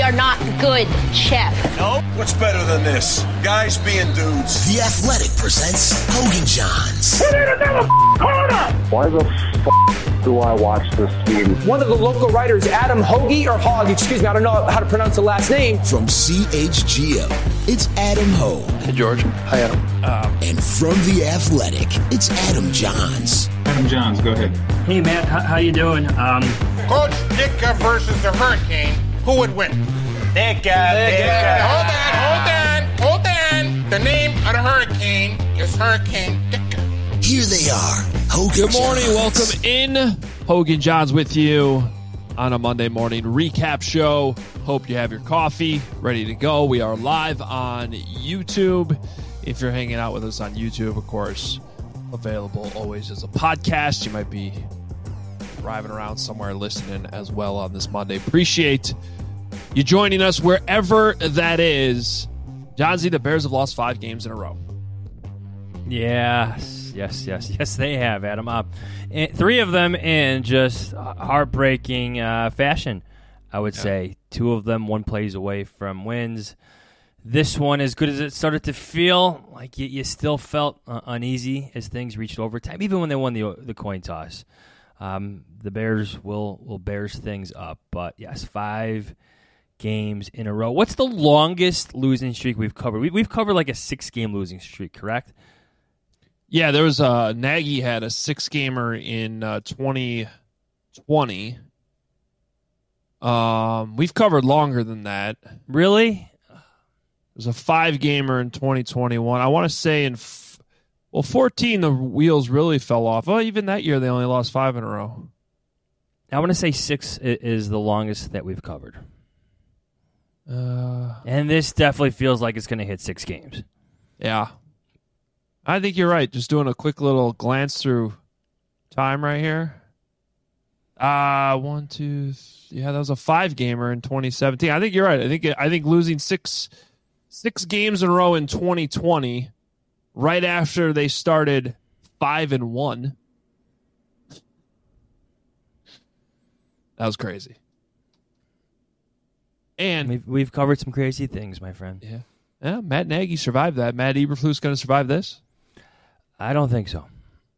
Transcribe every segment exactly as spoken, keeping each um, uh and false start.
are not good, Chef. No? What's better than this? Guys being dudes. The Athletic presents Hoge and Jahns. We need another corner! Why the f*** do I watch this game? One of the local writers, Adam Hoge, or Hogg, excuse me, I don't know how to pronounce the last name. From C H G O, it's Adam Hoge. Hey, George. Hi, Adam. Um, and from The Athletic, it's Adam Jahns. Adam Jahns, go ahead. Hey, Matt, how, how you doing? Um, Coach Ditka versus the Hurricane, who would win? Ditka, Ditka. Hold on, hold on, hold on. The name of the Hurricane is Hurricane Ditka. Here they are, Hoge Good morning, welcome in. Hoge and Jahns with you on a Monday morning recap show. Hope you have your coffee ready to go. We are live on YouTube. If you're hanging out with us on YouTube, of course, available always as a podcast. You might be driving around somewhere listening as well on this Monday. Appreciate you joining us wherever that is. Johnsy, the Bears have lost five games in a row. Yes, yes, yes, yes, they have, Adam. Uh, three of them in just heartbreaking uh, fashion, I would yeah. say. Two of them one plays away from wins. This one, as good as it started to feel, like you, you still felt uh, uneasy as things reached overtime, even when they won the the coin toss. Um, the Bears will, will Bears things up. But, yes, five games in a row. What's the longest losing streak we've covered? We, we've covered like a six-game losing streak, correct? Yeah, there was uh, Nagy had a six-gamer in uh, twenty twenty. Um, we've covered longer than that. Really? There's a five-gamer in twenty twenty-one. I want to say in, f- well, fourteen, the wheels really fell off. Well, even that year, they only lost five in a row. I want to say six is the longest that we've covered. Uh, and this definitely feels like it's going to hit six games. Yeah. I think you're right. Just doing a quick little glance through time right here. Uh, one, two, th- yeah, that was a five-gamer in twenty seventeen. I think you're right. I think I think losing six six games in a row in twenty twenty, right after they started five and one. That was crazy. And we've, we've covered some crazy things, my friend. Yeah, yeah. Matt Nagy survived that. Matt Eberflus going to survive this? I don't think so.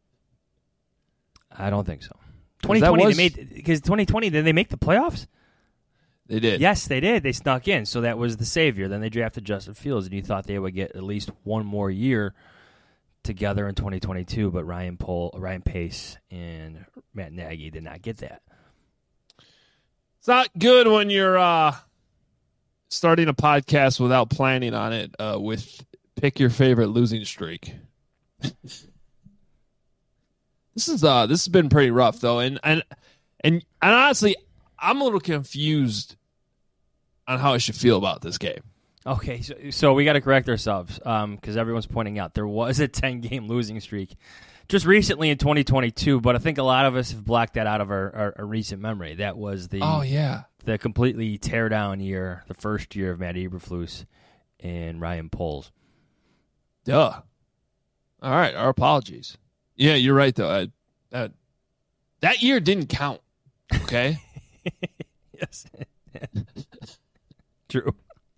I don't think so. twenty twenty, was, they made because twenty twenty, did they make the playoffs? They did. Yes, they did. They snuck in, so that was the savior. Then they drafted Justin Fields, and you thought they would get at least one more year together in twenty twenty-two. But Ryan Pohl, Ryan Pace and Matt Nagy did not get that. It's not good when you're uh, starting a podcast without planning on it. Uh, with pick your favorite losing streak. This is uh this has been pretty rough though, and and and, and honestly, I'm a little confused on how I should feel about this game. Okay, so, so we got to correct ourselves um, because everyone's pointing out there was a ten-game losing streak just recently in twenty twenty-two, but I think a lot of us have blocked that out of our, our, our recent memory. That was the oh yeah the completely tear down year, the first year of Matt Eberflus and Ryan Poles. Duh. All right, our apologies. Yeah, you're right, though. I, uh, that year didn't count, okay? Yes. True.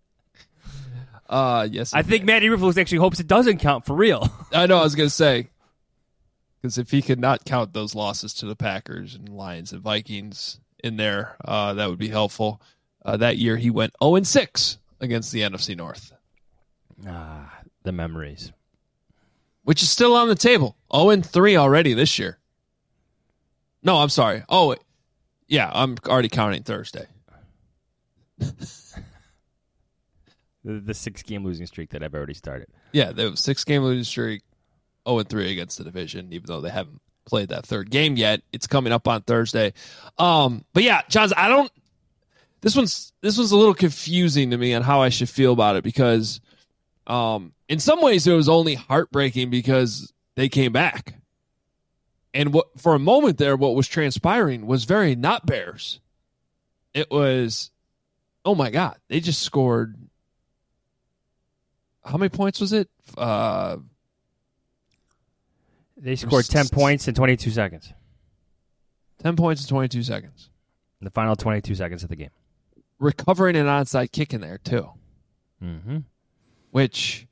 Uh, yes. I think did. Matt Eberflus actually hopes it doesn't count for real. I know, I was going to say. Because if he could not count those losses to the Packers and Lions and Vikings in there, uh, that would be helpful. Uh, that year he went oh and six against the N F C North. Ah, the memories. Which is still on the table. oh and three already this year. No, I'm sorry. Oh, yeah, I'm already counting Thursday. the, the six-game losing streak that I've already started. Yeah, the six-game losing streak, oh and three against the division, even though they haven't played that third game yet. It's coming up on Thursday. Um, but yeah, Johns, I don't. This one's this one's a little confusing to me on how I should feel about it because. Um, in some ways, it was only heartbreaking because they came back. And what for a moment there, what was transpiring was very not Bears. It was, oh my God, they just scored. How many points was it? Uh, they scored ten points in twenty-two seconds. ten points in twenty-two seconds. In the final twenty-two seconds of the game. recovering an onside kick in there too, mm-hmm. which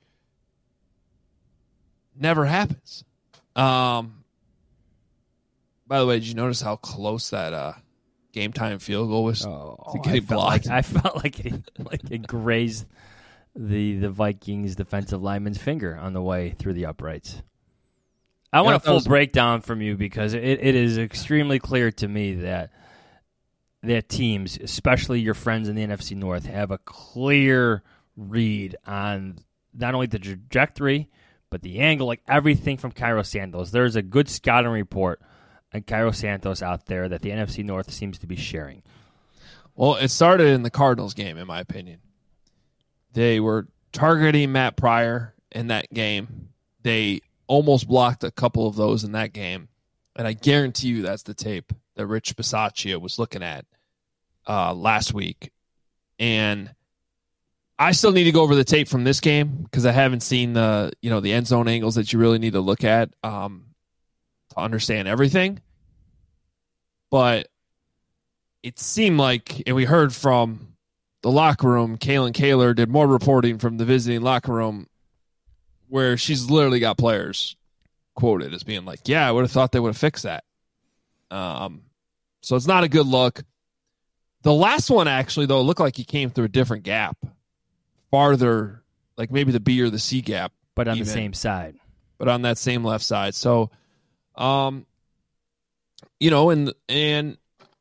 never happens. Um, by the way, did you notice how close that uh, game time field goal was oh, to getting I felt blocked? Like, I felt like it, like it grazed the the Vikings defensive lineman's finger on the way through the uprights. I want yeah, a full was... breakdown from you because it, it is extremely clear to me that that teams, especially your friends in the N F C North, have a clear read on not only the trajectory, but the angle, like everything from Cairo Santos. There's a good scouting report on Cairo Santos out there that the N F C North seems to be sharing. Well, it started in the Cardinals game, in my opinion. They were targeting Matt Pryor in that game. They almost blocked a couple of those in that game. And I guarantee you that's the tape that Rich Bisaccia was looking at uh, last week. And I still need to go over the tape from this game because I haven't seen the, you know, the end zone angles that you really need to look at um, to understand everything. But it seemed like, and we heard from the locker room, Kaylin Kaler did more reporting from the visiting locker room where she's literally got players quoted as being like, yeah, I would have thought they would have fixed that. Um, so it's not a good look. The last one, actually, though, looked like he came through a different gap, farther, like maybe the B or the C gap. But on even, the same side. But on that same left side. So, um, you know, and and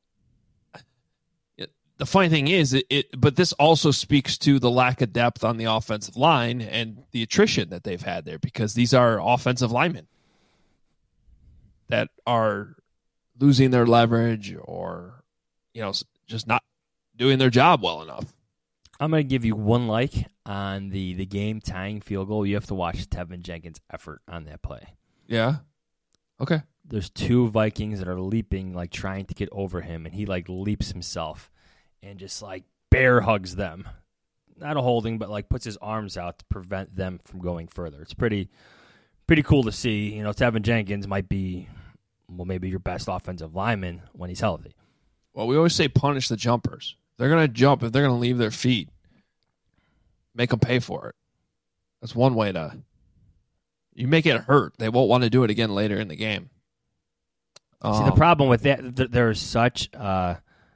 the funny thing is, it, it, but this also speaks to the lack of depth on the offensive line and the attrition that they've had there because these are offensive linemen that are losing their leverage or, you know, just not doing their job well enough. I'm going to give you one like on the, the game tying field goal. You have to watch Tevin Jenkins' effort on that play. Yeah. Okay. There's two Vikings that are leaping, like trying to get over him, and he like leaps himself and just like bear hugs them. Not a holding, but like puts his arms out to prevent them from going further. It's pretty pretty cool to see. You know, Tevin Jenkins might be, well, maybe your best offensive lineman when he's healthy. Well, we always say punish the jumpers. They're going to jump. If they're going to leave their feet, make them pay for it. That's one way to... You make it hurt. They won't want to do it again later in the game. Um, see, the problem with that, th- there's such... Uh,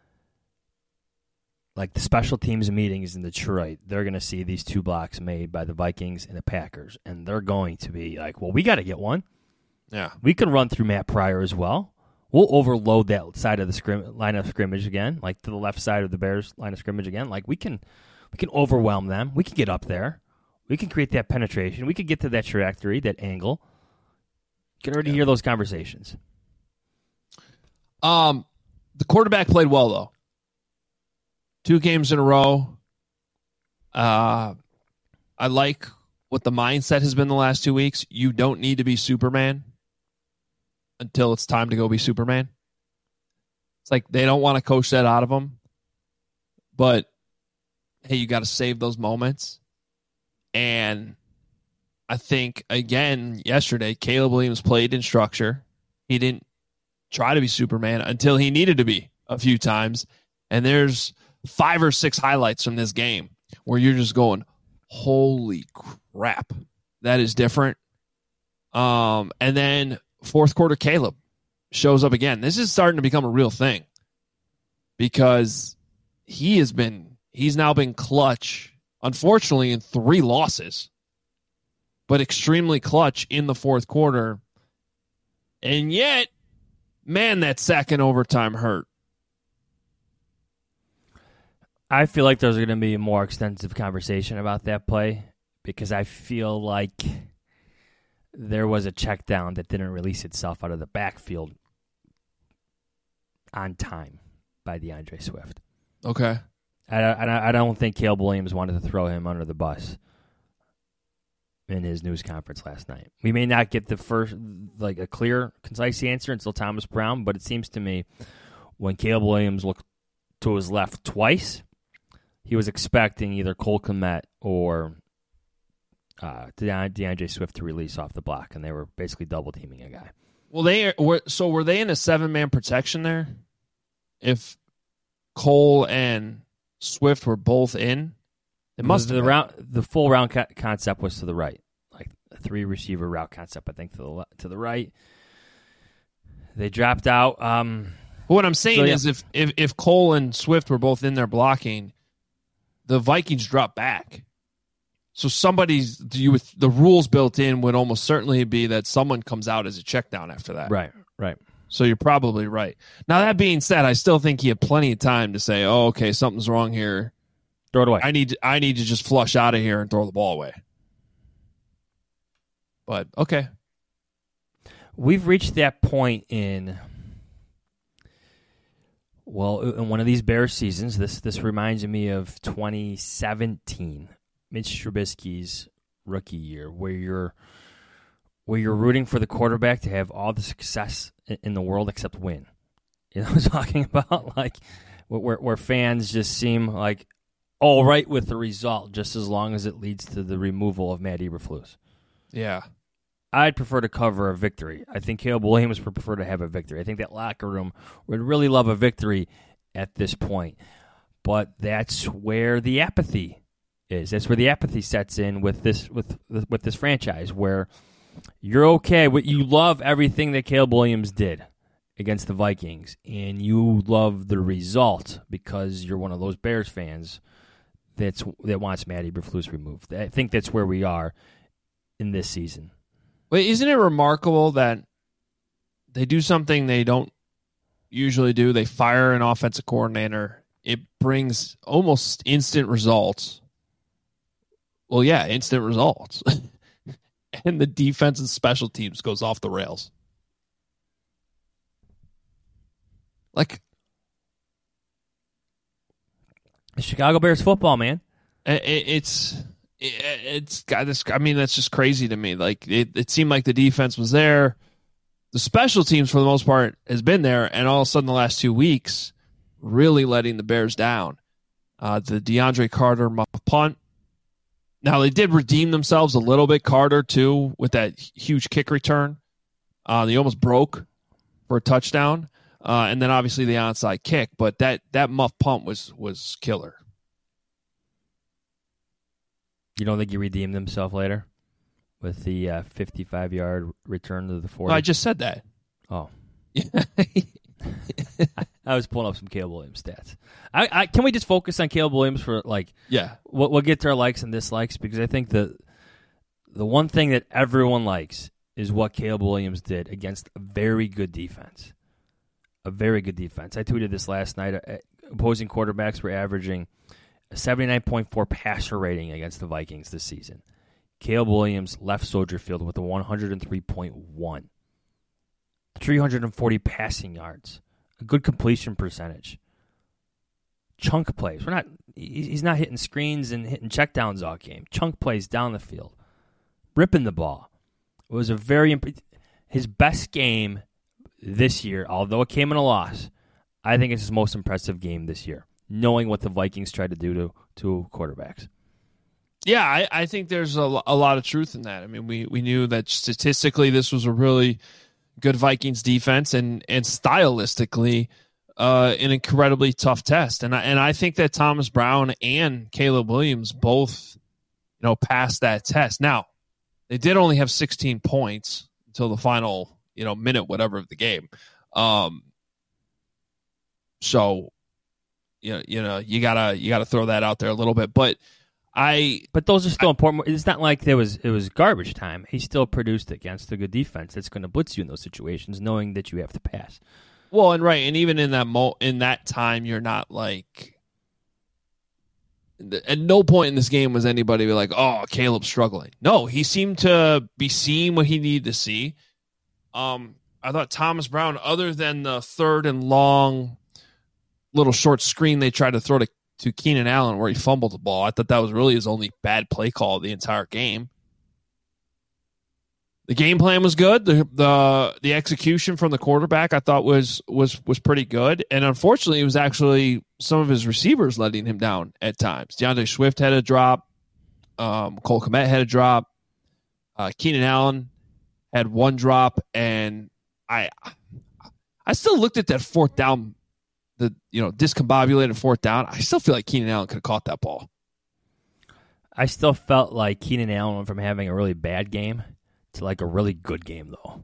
like the special teams meetings in Detroit, they're going to see these two blocks made by the Vikings and the Packers, and they're going to be like, well, we got to get one. Yeah. We can run through Matt Pryor as well. We'll overload that side of the scrim- line of scrimmage again, like to the left side of the Bears line of scrimmage again. Like we can we can overwhelm them. We can get up there. We can create that penetration. We can get to that trajectory, that angle. You can already yeah. hear those conversations. Um, the quarterback played well, though. Two games in a row. Uh, I like what the mindset has been the last two weeks. You don't need to be Superman until it's time to go be Superman. It's like they don't want to coach that out of him. But, hey, you got to save those moments. And I think, again, yesterday, Caleb Williams played in structure. He didn't try to be Superman until he needed to be a few times. And there's five or six highlights from this game where you're just going, holy crap, that is different. Um, and then fourth quarter, Caleb shows up again. This is starting to become a real thing because he has been, he's now been clutch, unfortunately, in three losses, but extremely clutch in the fourth quarter. And yet, man, that second overtime hurt. I feel like there's going to be a more extensive conversation about that play because I feel like there was a check down that didn't release itself out of the backfield on time by DeAndre Swift. Okay. I, I, I don't think Caleb Williams wanted to throw him under the bus in his news conference last night. We may not get the first, like a clear, concise answer until Thomas Brown, but it seems to me when Caleb Williams looked to his left twice, he was expecting either Cole Kmet or uh, DeAndre Swift to release off the block, and they were basically double teaming a guy. Well, they were so were they in a seven man protection there? If Cole and Swift were both in, it must the, have the round. The full round co- concept was to the right, like a three receiver route concept. I think to the le- to the right. They dropped out. Um, but what I'm saying so, yeah. is, if, if if Cole and Swift were both in there blocking, the Vikings dropped back. So somebody's you with the rules built in would almost certainly be that someone comes out as a check down after that. Right. Right. So you're probably right. Now, that being said, I still think he had plenty of time to say, oh, okay, something's wrong here. Throw it away. I need, I need to just flush out of here and throw the ball away. But, okay. We've reached that point in, well, in one of these Bears seasons. This this reminds me of twenty seventeen, Mitch Trubisky's rookie year, where you're where you're rooting for the quarterback to have all the success in the world except win. You know what I'm talking about? Like where where fans just seem like all right with the result, just as long as it leads to the removal of Matt Eberflus. Yeah. I'd prefer to cover a victory. I think Caleb Williams would prefer to have a victory. I think that locker room would really love a victory at this point. But that's where the apathy is. That's where the apathy sets in with this with with this franchise, where you're okay. You love everything that Caleb Williams did against the Vikings, and you love the result because you're one of those Bears fans that's that wants Matt Eberflus removed. I think that's where we are in this season. Wait, isn't it remarkable that they do something they don't usually do? They fire an offensive coordinator. It brings almost instant results. Well, yeah, instant results. And the defense and special teams goes off the rails. Like, Chicago Bears football, man. It, it's it, it's got this. I mean, that's just crazy to me. Like, it, it seemed like the defense was there. The special teams, for the most part, has been there, and all of a sudden, the last two weeks, really letting the Bears down. Uh, the DeAndre Carter muff punt. Now, they did redeem themselves a little bit, Carter, too, with that huge kick return. Uh, they almost broke for a touchdown. Uh, and then, obviously, the onside kick. But that, that muff punt was was killer. You don't think he redeemed himself later with the uh, fifty-five-yard return to the forty? Well, I just said that. Oh. I was pulling up some Caleb Williams stats. I, I can we just focus on Caleb Williams for like yeah. We'll, we'll get to our likes and dislikes because I think the the one thing that everyone likes is what Caleb Williams did against a very good defense. A very good defense. I tweeted this last night. Opposing quarterbacks were averaging a seventy-nine point four passer rating against the Vikings this season. Caleb Williams left Soldier Field with a one hundred three point one. three hundred forty passing yards. A good completion percentage. Chunk plays. We're not. He's not hitting screens and hitting checkdowns all game. Chunk plays down the field, ripping the ball. It was a very imp- his best game this year. Although it came in a loss, I think it's his most impressive game this year. Knowing what the Vikings tried to do to to quarterbacks. Yeah, I, I think there's a, a lot of truth in that. I mean, we we knew that statistically this was a really good Vikings defense, and and stylistically, uh, an incredibly tough test. And I and I think that Thomas Brown and Caleb Williams both, you know, passed that test. Now, they did only have sixteen points until the final, you know, minute whatever of the game. Um, so, you know, you know, you gotta you gotta throw that out there a little bit, but. I but those are still I, important. It's not like there was it was garbage time. He still produced against a good defense that's going to blitz you in those situations, knowing that you have to pass. Well, and right, and even in that mo- in that time, you're not like. At no point in this game was anybody like, "Oh, Caleb's struggling." No, he seemed to be seeing what he needed to see. Um, I thought Thomas Brown, other than the third and long, little short screen they tried to throw to. to Keenan Allen where he fumbled the ball. I thought that was really his only bad play call of the entire game. The game plan was good. The the the execution from the quarterback I thought was was was pretty good. And unfortunately, it was actually some of his receivers letting him down at times. DeAndre Swift had a drop. Um, Cole Kmet had a drop. Uh, Keenan Allen had one drop. And I I still looked at that fourth down the you know discombobulated fourth down, I still feel like Keenan Allen could have caught that ball. I still felt like Keenan Allen went from having a really bad game to like a really good game, though.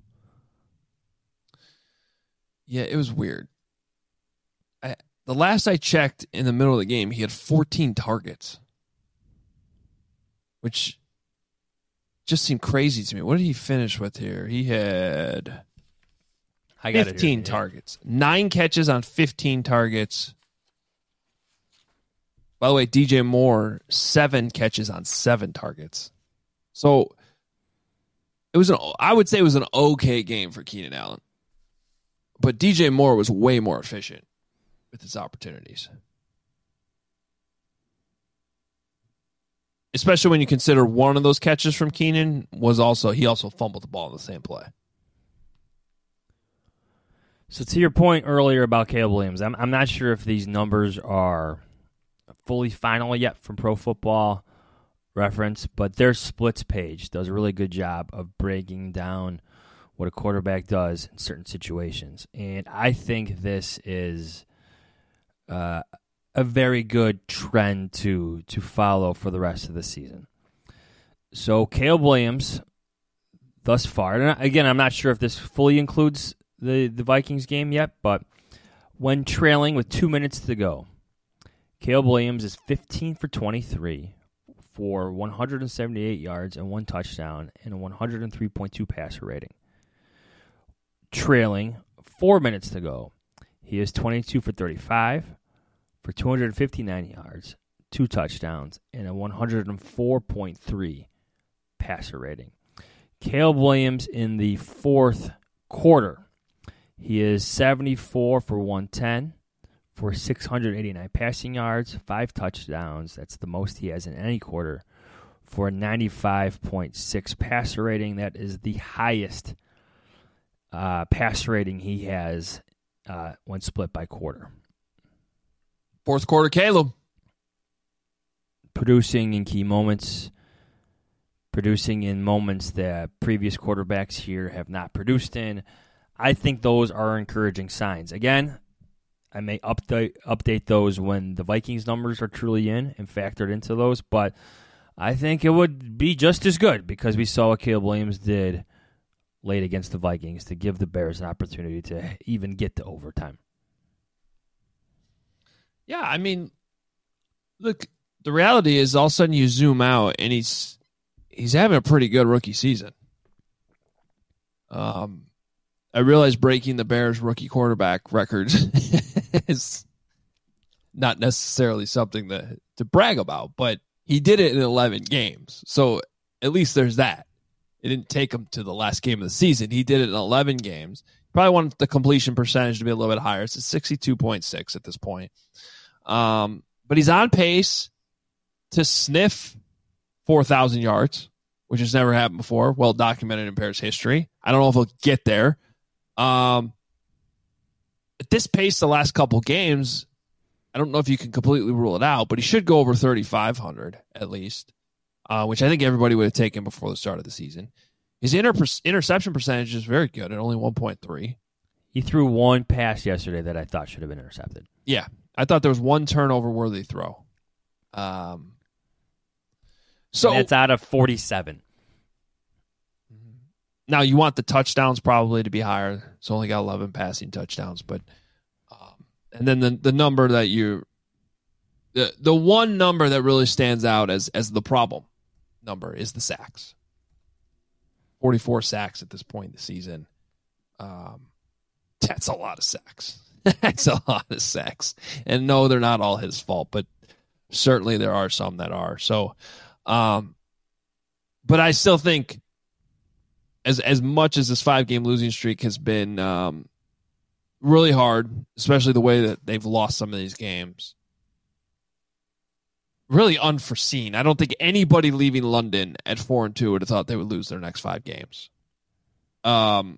Yeah, it was weird. I, the last I checked in the middle of the game, he had fourteen targets, which just seemed crazy to me. What did he finish with here? He had I got fifteen it here. targets, nine catches on fifteen targets. By the way, D J Moore, seven catches on seven targets. So it was an, I would say it was an okay game for Keenan Allen. But D J Moore was way more efficient with his opportunities. Especially when you consider one of those catches from Keenan was also, he also fumbled the ball in the same play. So to your point earlier about Caleb Williams, I'm, I'm not sure if these numbers are fully final yet from Pro Football Reference, but their splits page does a really good job of breaking down what a quarterback does in certain situations. And I think this is uh, a very good trend to to follow for the rest of the season. So Caleb Williams, thus far, and again, I'm not sure if this fully includes the, the Vikings game yet, but when trailing with two minutes to go, Caleb Williams is fifteen for twenty-three for one hundred seventy-eight yards and one touchdown and a one oh three point two passer rating. Trailing four minutes to go, he is twenty-two for thirty-five for two hundred fifty-nine yards, two touchdowns, and a one oh four point three passer rating. Caleb Williams in the fourth quarter, he is seventy-four for one ten for six hundred eighty-nine passing yards, five touchdowns. That's the most he has in any quarter for a ninety-five point six passer rating. That is the highest uh, passer rating he has uh, when split by quarter. Fourth quarter, Caleb. Producing in key moments, producing in moments that previous quarterbacks here have not produced in. I think those are encouraging signs. Again, I may update update those when the Vikings numbers are truly in and factored into those, but I think it would be just as good because we saw what Caleb Williams did late against the Vikings to give the Bears an opportunity to even get to overtime. Yeah, I mean, look, the reality is all of a sudden you zoom out and he's he's having a pretty good rookie season. Um, I realize breaking the Bears rookie quarterback record is not necessarily something to, to brag about, but he did it in eleven games. So at least there's that. It didn't take him to the last game of the season. He did it in eleven games. Probably want the completion percentage to be a little bit higher. It's a sixty-two point six at this point. Um, but he's on pace to sniff four thousand yards, which has never happened before. Well documented in Bears history. I don't know if he'll get there. Um, at this pace, the last couple games, I don't know if you can completely rule it out, but he should go over thirty-five hundred at least, uh, which I think everybody would have taken before the start of the season. His inter- interception percentage is very good at only one point three. He threw one pass yesterday that I thought should have been intercepted. Yeah, I thought there was one turnover-worthy throw. Um, so and that's out of forty-seven. Now, you want the touchdowns probably to be higher. It's only got eleven passing touchdowns. but um, And then the the number that you the, – the one number that really stands out as, as the problem number is the sacks. forty-four sacks at this point in the season. Um, that's a lot of sacks. That's a lot of sacks. And no, they're not all his fault, but certainly there are some that are. So, um, but I still think as as much as this five-game losing streak has been um, really hard, especially the way that they've lost some of these games, really unforeseen. I don't think anybody leaving London at four and two would have thought they would lose their next five games. Um,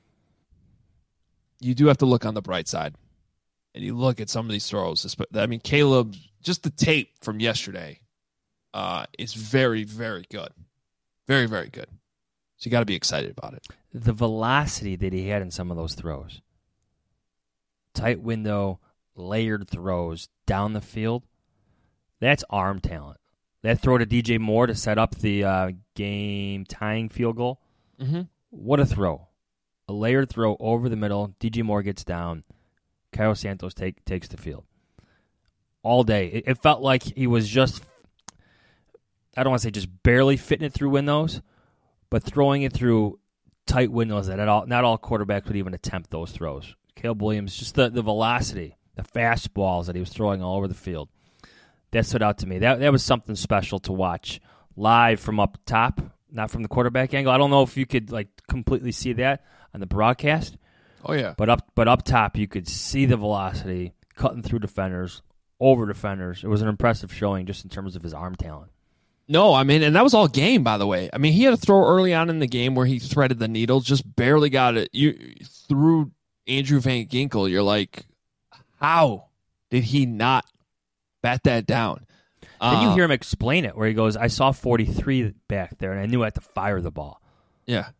you do have to look on the bright side, and you look at some of these throws. I mean, Caleb, just the tape from yesterday uh, is very, very good. Very, very good. So you got to be excited about it. The velocity that he had in some of those throws. Tight window, layered throws down the field, that's arm talent. That throw to D J Moore to set up the uh, game-tying field goal, mm-hmm. What a throw. A layered throw over the middle, D J Moore gets down, Cairo Santos take, takes the field. All day. It, it felt like he was just, I don't want to say just barely fitting it through windows, but throwing it through tight windows that all, not all quarterbacks would even attempt those throws. Caleb Williams, just the, the velocity, the fastballs that he was throwing all over the field. That stood out to me. That that was something special to watch live from up top, not from the quarterback angle. I don't know if you could like completely see that on the broadcast. Oh yeah. But up but up top you could see the velocity cutting through defenders, over defenders. It was an impressive showing just in terms of his arm talent. No, I mean, and that was all game, by the way. I mean, he had a throw early on in the game where he threaded the needle, just barely got it. You through Andrew Van Ginkel, you're like, how did he not bat that down? Then uh, you hear him explain it, where he goes, I saw forty-three back there, and I knew I had to fire the ball. Yeah.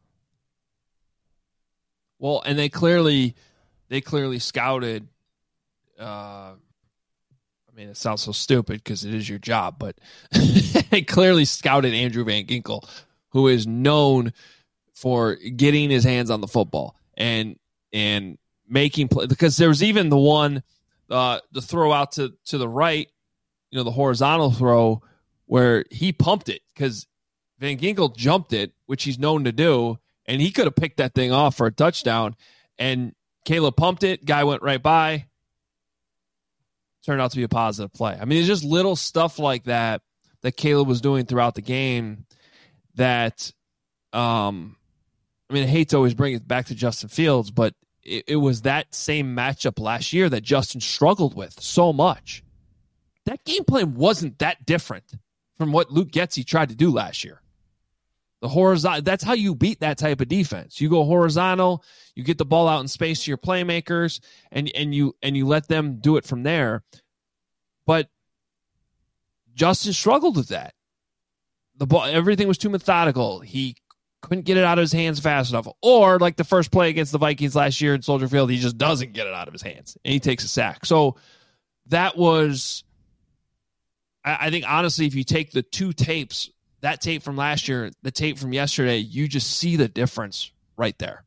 Well, and they clearly, they clearly scouted. Uh, I mean, it sounds so stupid because it is your job, but they clearly scouted Andrew Van Ginkel, who is known for getting his hands on the football and and making play. Because there was even the one, uh, the throw out to to the right, you know, the horizontal throw where he pumped it because Van Ginkel jumped it, which he's known to do, and he could have picked that thing off for a touchdown. And Caleb pumped it, guy went right by. Turned out to be a positive play. I mean, it's just little stuff like that that Caleb was doing throughout the game that, um, I mean, I hate to always bring it back to Justin Fields, but it, it was that same matchup last year that Justin struggled with so much. That game plan wasn't that different from what Luke Getsy tried to do last year. The horizontal, that's how you beat that type of defense. You go horizontal, you get the ball out in space to your playmakers, and and you and you let them do it from there. But Justin struggled with that. The ball, everything was too methodical. He couldn't get it out of his hands fast enough. Or like the first play against the Vikings last year in Soldier Field, he just doesn't get it out of his hands, and he takes a sack. So that was, I, I think, honestly, if you take the two tapes, that tape from last year, the tape from yesterday, you just see the difference right there.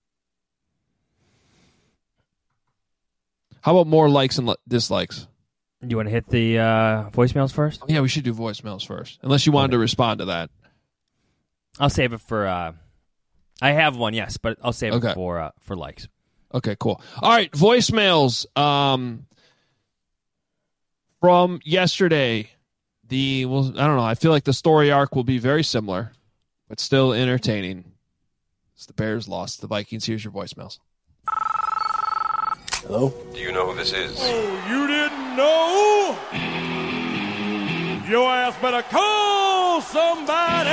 How about more likes and dislikes? You want to hit the uh, voicemails first? Yeah, we should do voicemails first, unless you wanted okay. to respond to that. I'll save it for. Uh, I have one, yes, but I'll save okay. it for uh, for likes. Okay, cool. All right, voicemails um, from yesterday. The well, I don't know. I feel like the story arc will be very similar, but still entertaining. It's the Bears lost the Vikings. Here's your voicemails. Hello? Do you know who this is? Oh, you didn't know? Your ass better call somebody!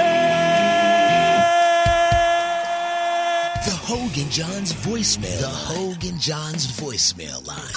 The Hogan Johns voicemail. The Hogan Johns voicemail line.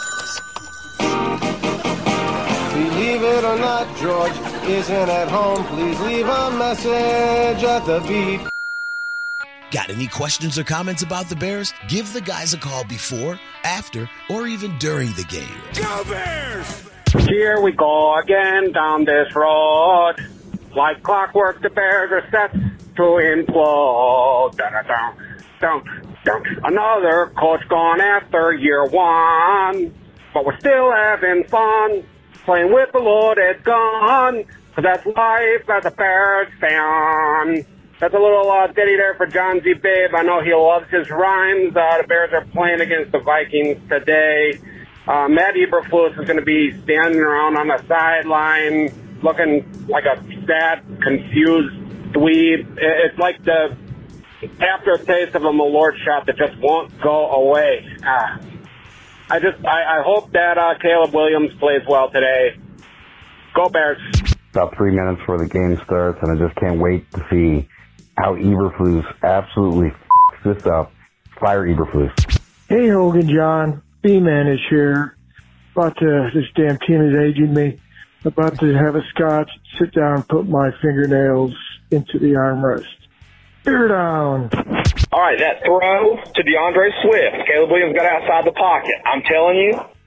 Believe it or not, George isn't at home. Please leave a message at the beep. Got any questions or comments about the Bears? Give the guys a call before, after, or even during the game. Go Bears! Here we go again down this road. Like clockwork, the Bears are set to implode. Dun, dun, dun, dun. Another coach gone after year one. But we're still having fun. Playing with a loaded gun, cause that's life as a Bears fan. That's a little uh, ditty there for John Z. Babe. I know he loves his rhymes. Uh, the Bears are playing against the Vikings today. Uh, Matt Eberflus is going to be standing around on the sideline looking like a sad, confused dweeb. It's like the aftertaste of a Malort shot that just won't go away. Ah. I just, I, I hope that uh, Caleb Williams plays well today. Go Bears. About three minutes before the game starts, and I just can't wait to see how Eberflus absolutely f***s this up. Fire Eberflus. Hey, Hogan John. B-Man is here. About to, this damn team is aging me. About to have a scotch, sit down, and put my fingernails into the armrest. Bear down. All right, that throw to DeAndre Swift. Caleb Williams got outside the pocket. I'm telling you,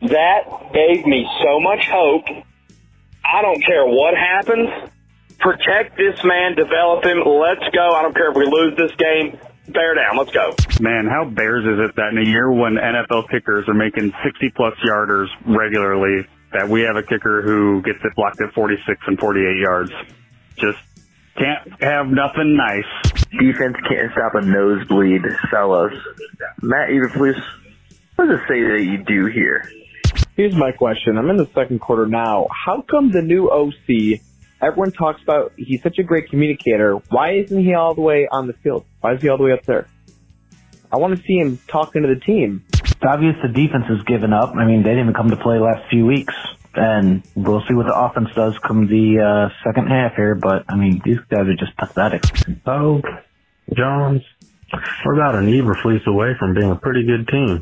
That gave me so much hope. I don't care what happens. Protect this man, develop him. Let's go. I don't care if we lose this game. Bear down. Let's go. Man, how Bears is it that in a year when N F L kickers are making sixty-plus yarders regularly, that we have a kicker who gets it blocked at forty-six and forty-eight yards? Just can't have nothing nice. Defense can't stop a nosebleed, fellas. Matt Eberflus, what does it say that you do here? Here's my question. I'm in the second quarter now. How come the new O C, everyone talks about he's such a great communicator. Why isn't he all the way on the field? Why is he all the way up there? I want to see him talking to the team. It's obvious the defense has given up. I mean, they didn't even come to play last few weeks. And we'll see what the offense does come the uh, second half here. But, I mean, these guys are just pathetic. Oh, Jones, we're about an Eberflus away from being a pretty good team.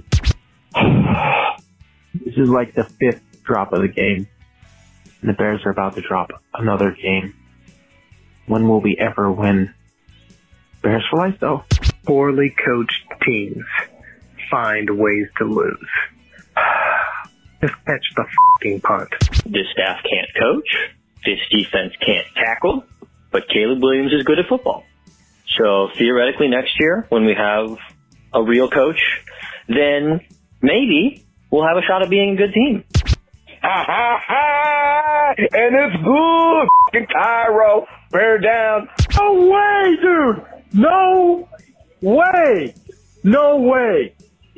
This is like the fifth drop of the game. And the Bears are about to drop another game. When will we ever win? Bears for life, though. Poorly coached teams find ways to lose. Just catch the f***ing punt. This staff can't coach. This defense can't tackle. But Caleb Williams is good at football. So theoretically next year, when we have a real coach, then maybe we'll have a shot at being a good team. Ha ha ha! And it's good, f***ing Cairo. Bear down. No way, dude! No way! No way!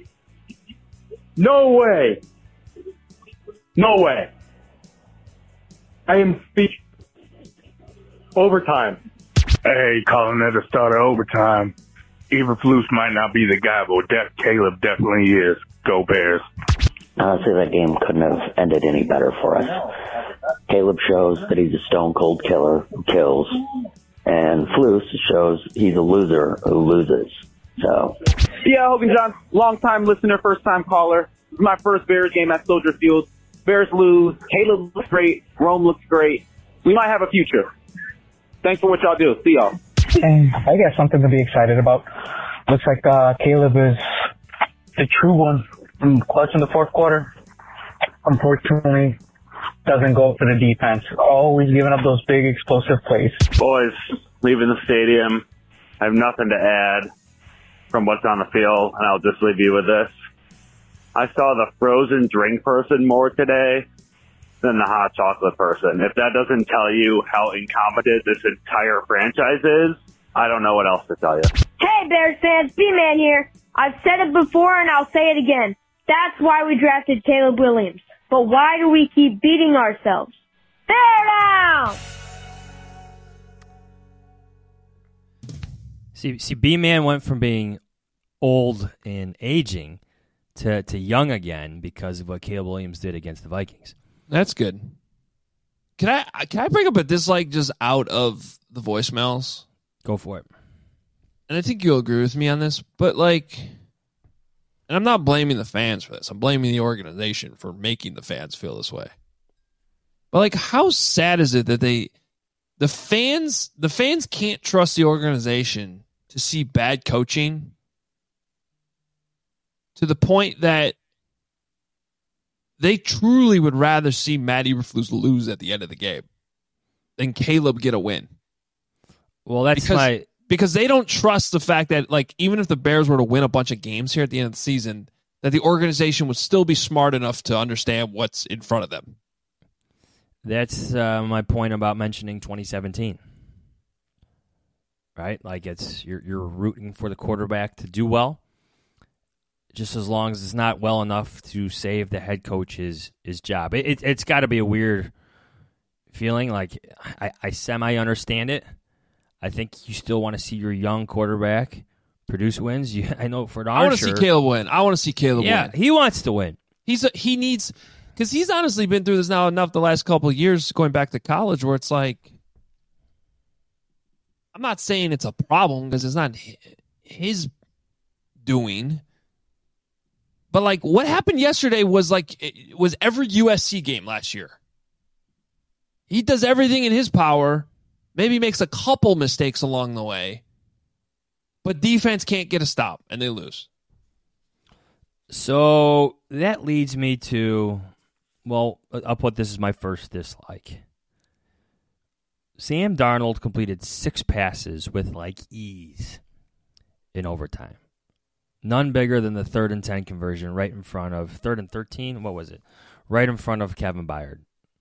No way! No way! I am speechless. Overtime. Hey, calling at the start of overtime. Eberflus might not be the guy, but Def Caleb definitely is. Go Bears. Honestly, that game couldn't have ended any better for us. Caleb shows that he's a stone-cold killer who kills, and Flus shows he's a loser who loses. So, yeah, Hogan John, long-time listener, first-time caller. This is my first Bears game at Soldier Field. Bears lose. Caleb looks great. Rome looks great. We might have a future. Thanks for what y'all do. See y'all. And I got something to be excited about. Looks like uh, Caleb is the true one from clutch in the fourth quarter. Unfortunately, doesn't go for the defense. Always giving up those big explosive plays. Boys, leaving the stadium. I have nothing to add from what's on the field, and I'll just leave you with this. I saw the frozen drink person more today than the hot chocolate person. If that doesn't tell you how incompetent this entire franchise is, I don't know what else to tell you. Hey, Bears fans, B-Man here. I've said it before and I'll say it again. That's why we drafted Caleb Williams. But why do we keep beating ourselves? Bear down! See, see, B-Man went from being old and aging to, to young again because of what Caleb Williams did against the Vikings. That's good. Can I can I bring up a dislike just out of the voicemails? Go for it. And I think you'll agree with me on this, but like, and I'm not blaming the fans for this. I'm blaming the organization for making the fans feel this way. But like, how sad is it that they, the fans, the fans can't trust the organization to see bad coaching to the point that they truly would rather see Matt Eberflus lose at the end of the game than Caleb get a win. Well, that's because, my... because they don't trust the fact that, like, even if the Bears were to win a bunch of games here at the end of the season, that the organization would still be smart enough to understand what's in front of them. That's uh, my point about mentioning twenty seventeen. Right? Like, it's you're you're rooting for the quarterback to do well, just as long as it's not well enough to save the head coach's his job. It, it, it's got to be a weird feeling. Like, I, I semi-understand it. I think you still want to see your young quarterback produce wins. You, I know for darn I want to sure. see Caleb win. I want to see Caleb yeah, win. Yeah, he wants to win. He's a, He needs... Because he's honestly been through this now enough the last couple of years going back to college where it's like... I'm not saying it's a problem because it's not his doing... But, like, what happened yesterday was, like, it was every U S C game last year. He does everything in his power, maybe makes a couple mistakes along the way, but defense can't get a stop, and they lose. So that leads me to, well, I'll put this as my first dislike. Sam Darnold completed six passes with, like, ease in overtime. None bigger than the third and ten conversion right in front of, third and thirteen, what was it? Right in front of Kevin Byard.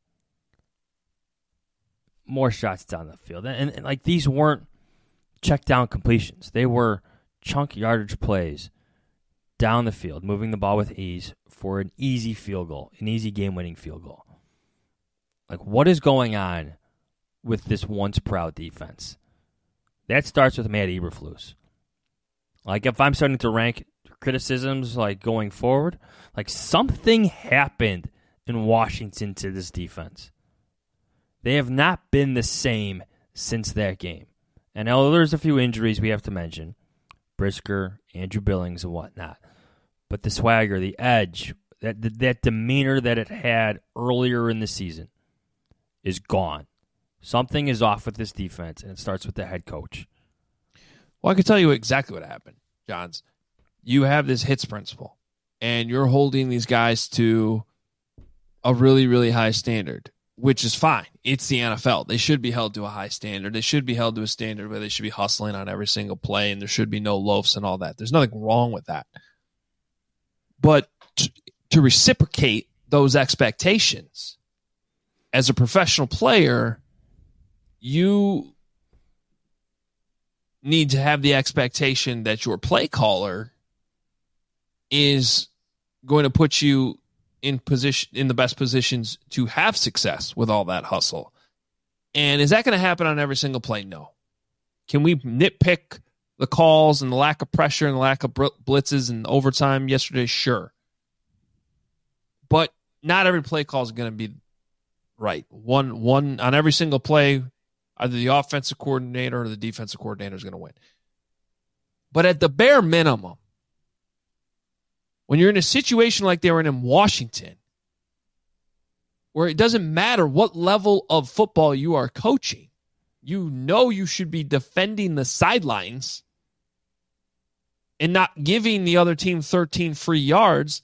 More shots down the field. And, and, and like, these weren't check down completions. They were chunk yardage plays down the field, moving the ball with ease for an easy field goal, an easy game-winning field goal. Like, what is going on with this once-proud defense? That starts with Matt Eberflus. Like, if I'm starting to rank criticisms, like, going forward, like, something happened in Washington to this defense. They have not been the same since that game. And now there's a few injuries we have to mention. Brisker, Andrew Billings, and whatnot. But the swagger, the edge, that that demeanor that it had earlier in the season is gone. Something is off with this defense, and it starts with the head coach. Well, I can tell you exactly what happened, Johns. You have this hits principle, and you're holding these guys to a really, really high standard, which is fine. It's the N F L. They should be held to a high standard. They should be held to a standard where they should be hustling on every single play, and there should be no loafs and all that. There's nothing wrong with that. But to, to reciprocate those expectations, as a professional player, you need to have the expectation that your play caller is going to put you in position, in the best positions to have success with all that hustle. And is that going to happen on every single play? No. Can we nitpick the calls and the lack of pressure and the lack of blitzes and overtime yesterday? Sure. But not every play call is going to be right. One, one on every single play, either the offensive coordinator or the defensive coordinator is going to win. But at the bare minimum, when you're in a situation like they were in in Washington, where it doesn't matter what level of football you are coaching, you know you should be defending the sidelines and not giving the other team thirteen free yards.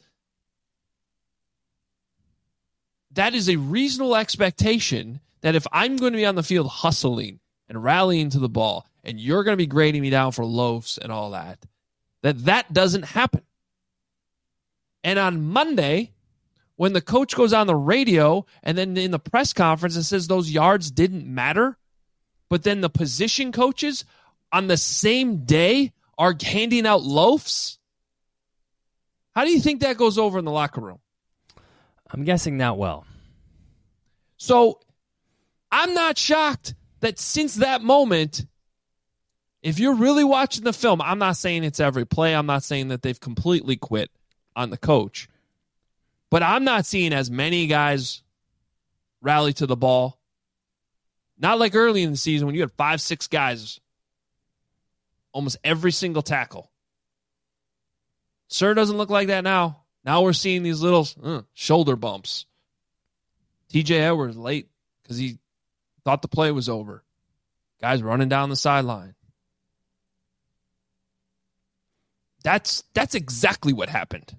That is a reasonable expectation that if I'm going to be on the field hustling and rallying to the ball, and you're going to be grading me down for loafs and all that, that that doesn't happen. And on Monday, when the coach goes on the radio and then in the press conference and says those yards didn't matter, but then the position coaches on the same day are handing out loafs, how do you think that goes over in the locker room? I'm guessing not well. So I'm not shocked that since that moment, if you're really watching the film, I'm not saying it's every play. I'm not saying that they've completely quit on the coach. But I'm not seeing as many guys rally to the ball. Not like early in the season when you had five, six guys, almost every single tackle. Sure doesn't look like that now. Now we're seeing these little uh, shoulder bumps. T J Edwards late because he thought the play was over. Guys running down the sideline. That's that's exactly what happened.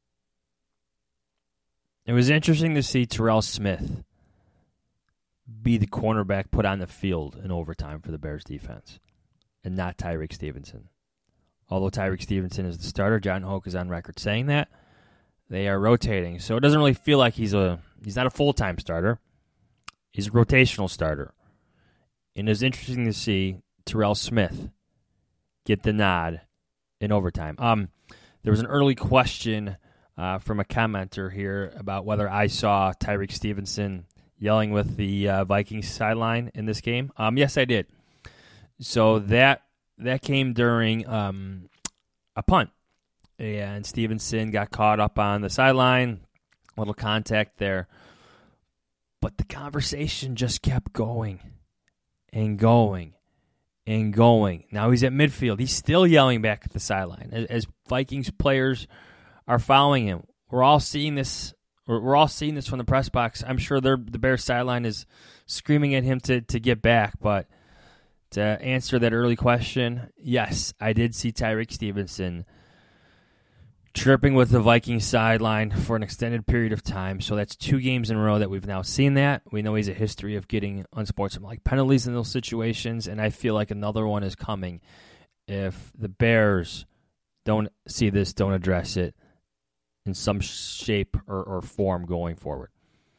It was interesting to see Terrell Smith be the cornerback put on the field in overtime for the Bears defense and not Tyreek Stevenson. Although Tyreek Stevenson is the starter, John Hoke is on record saying that. They are rotating, so it doesn't really feel like he's a he's not a full-time starter. He's a rotational starter. And it's interesting to see Terrell Smith get the nod in overtime. Um, there was an early question uh, from a commenter here about whether I saw Tyreek Stevenson yelling with the uh, Vikings sideline in this game. Um, yes, I did. So that that came during um, a punt. And Stevenson got caught up on the sideline, a little contact there. But the conversation just kept going and going and going. Now he's at midfield. He's still yelling back at the sideline as, as Vikings players are following him. We're all seeing this. We're, we're all seeing this from the press box. I'm sure the Bears sideline is screaming at him to, to get back. But to answer that early question, yes, I did see Tyreek Stevenson chirping with the Vikings sideline for an extended period of time. So that's two games in a row that we've now seen that. We know he's a history of getting unsportsmanlike penalties in those situations, and I feel like another one is coming if the Bears don't see this, don't address it in some shape or, or form going forward.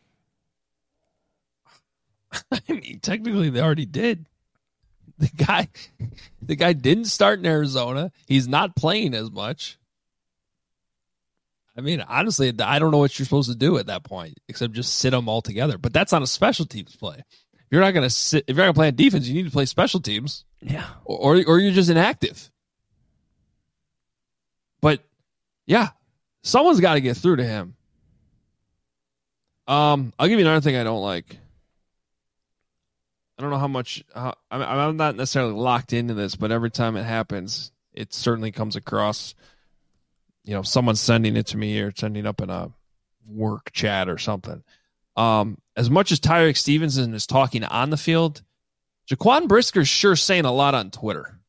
I mean, technically they already did. The guy, the guy didn't start in Arizona. He's not playing as much. I mean, honestly, I don't know what you're supposed to do at that point, except just sit them all together. But that's on a special teams play. If you're not going to sit, if you're not going to play on defense, you need to play special teams. Yeah. Or, or you're just inactive. But yeah, someone's got to get through to him. Um, I'll give you another thing I don't like. I don't know how much. How, I'm, I'm not necessarily locked into this, but every time it happens, it certainly comes across. You know, someone's sending it to me or sending up in a work chat or something. Um, as much as Tyreek Stevenson is talking on the field, Jaquan Brisker's sure saying a lot on Twitter.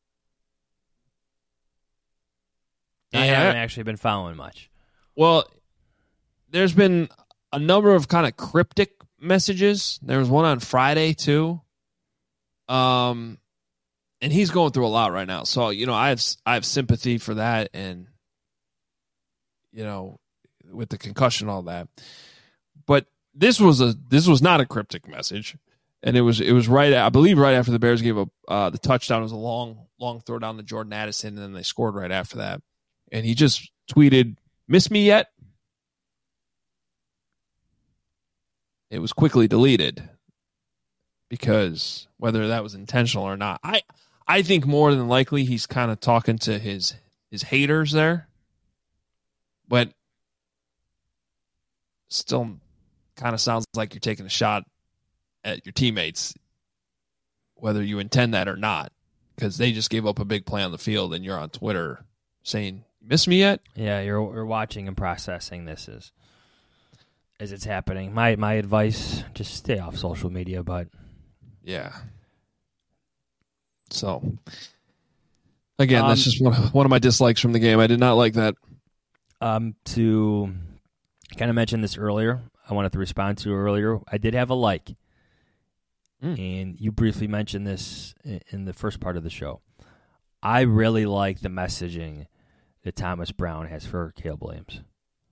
I And haven't actually been following much. Well, there's been a number of kind of cryptic messages. There was one on Friday too. Um, and he's going through a lot right now. So, you know, I have I have sympathy for that, and you know, with the concussion, all that. But this was a this was not a cryptic message, and it was it was right I believe right after the Bears gave up uh, the touchdown. It was a long long throw down to Jordan Addison, and then they scored right after that. And he just tweeted, "Miss me yet?" It was quickly deleted because whether that was intentional or not, I I think more than likely he's kind of talking to his his haters there. But still kind of sounds like you're taking a shot at your teammates, whether you intend that or not, because they just gave up a big play on the field and you're on Twitter saying, "Miss me yet?" Yeah, you're you're watching and processing this as, as it's happening. My my advice, just stay off social media, but yeah. So, again, Um, that's just one of, one of my dislikes from the game. I did not like that. Um, to kind of mention this earlier, I wanted to respond to earlier. I did have a like, mm. and you briefly mentioned this in, in the first part of the show. I really like the messaging that Thomas Brown has for Caleb Williams.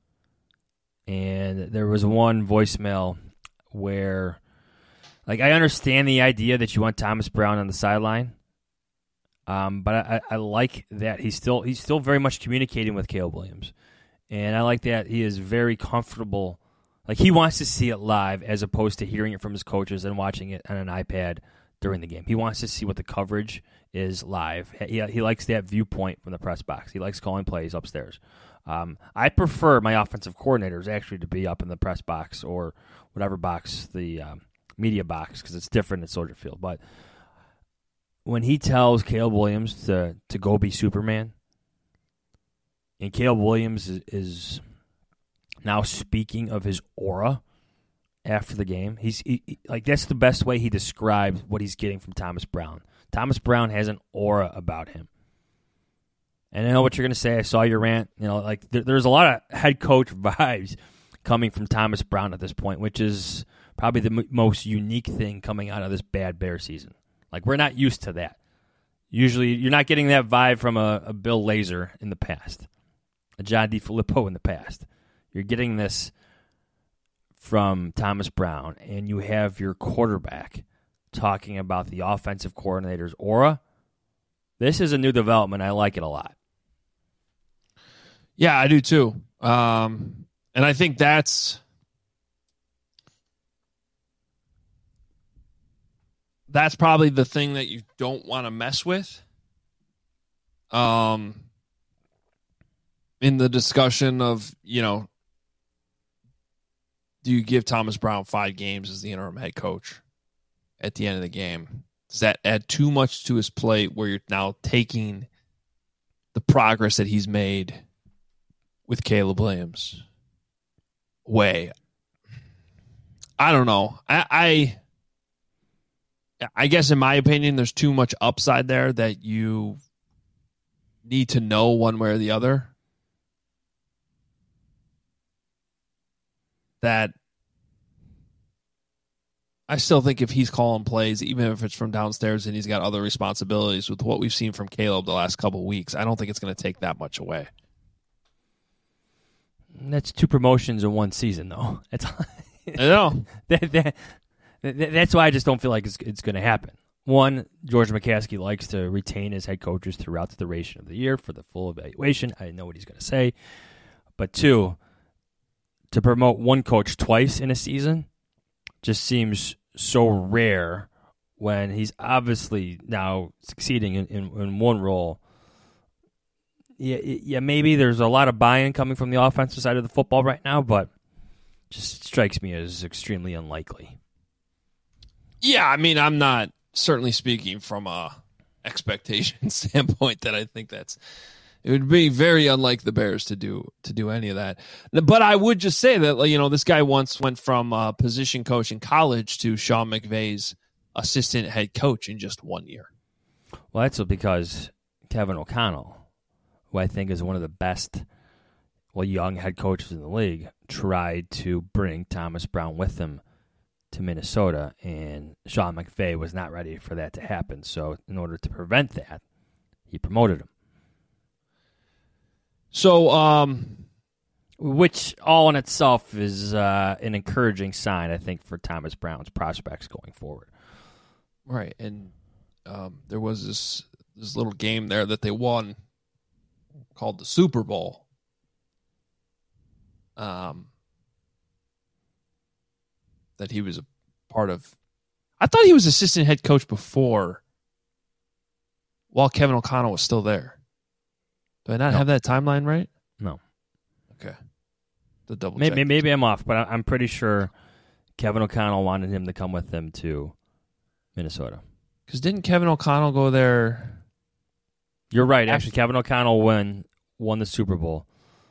And there was one voicemail where, like, I understand the idea that you want Thomas Brown on the sideline. Um, but I, I like that he's still he's still very much communicating with Caleb Williams. And I like that he is very comfortable. Like, he wants to see it live as opposed to hearing it from his coaches and watching it on an iPad during the game. He wants to see what the coverage is live. He, he likes that viewpoint from the press box. He likes calling plays upstairs. Um, I prefer my offensive coordinators actually to be up in the press box or whatever box, the um, media box, because it's different at Soldier Field. But when he tells Caleb Williams to, to go be Superman, and Caleb Williams is, is now speaking of his aura after the game. He's he, he, like that's the best way he describes what he's getting from Thomas Brown. Thomas Brown has an aura about him. And I know what you're going to say. I saw your rant. You know, like there, there's a lot of head coach vibes coming from Thomas Brown at this point, which is probably the m- most unique thing coming out of this bad Bear season. Like, we're not used to that. Usually, you're not getting that vibe from a, a Bill Lazor in the past, a John DeFilippo in the past. You're getting this from Thomas Brown, and you have your quarterback talking about the offensive coordinator's aura. This is a new development. I like it a lot. Yeah, I do too. Um, and I think that's that's probably the thing that you don't want to mess with. Um, in the discussion of, you know, do you give Thomas Brown five games as the interim head coach at the end of the game? Does that add too much to his plate where you're now taking the progress that he's made with Caleb Williams away? I don't know. I, I I guess in my opinion, there's too much upside there that you need to know one way or the other. that I still think if he's calling plays, even if it's from downstairs and he's got other responsibilities with what we've seen from Caleb the last couple of weeks, I don't think it's going to take that much away. That's two promotions in one season, though. That's I know. that, that, that, that's why I just don't feel like it's, it's going to happen. One, George McCaskey likes to retain his head coaches throughout the duration of the year for the full evaluation. I know what he's going to say. But two, to promote one coach twice in a season just seems so rare when he's obviously now succeeding in, in, in one role. Yeah, yeah, maybe there's a lot of buy-in coming from the offensive side of the football right now, but just strikes me as extremely unlikely. Yeah, I mean, I'm not certainly speaking from a expectation standpoint that I think that's it would be very unlike the Bears to do to do any of that. But I would just say that, you know, this guy once went from a position coach in college to Sean McVay's assistant head coach in just one year. Well, that's because Kevin O'Connell, who I think is one of the best, well, young head coaches in the league, tried to bring Thomas Brown with him to Minnesota, and Sean McVay was not ready for that to happen. So in order to prevent that, he promoted him. So, um, which all in itself is uh, an encouraging sign, I think, for Thomas Brown's prospects going forward. Right, and um, there was this this little game there that they won called the Super Bowl. Um, that he was a part of. I thought he was assistant head coach before, while Kevin O'Connell was still there. Do I not no. have that timeline right? No. Okay. The double maybe, maybe I'm off, but I'm pretty sure Kevin O'Connell wanted him to come with them to Minnesota. Because didn't Kevin O'Connell go there? You're right. Actually, Kevin O'Connell won, won the Super Bowl.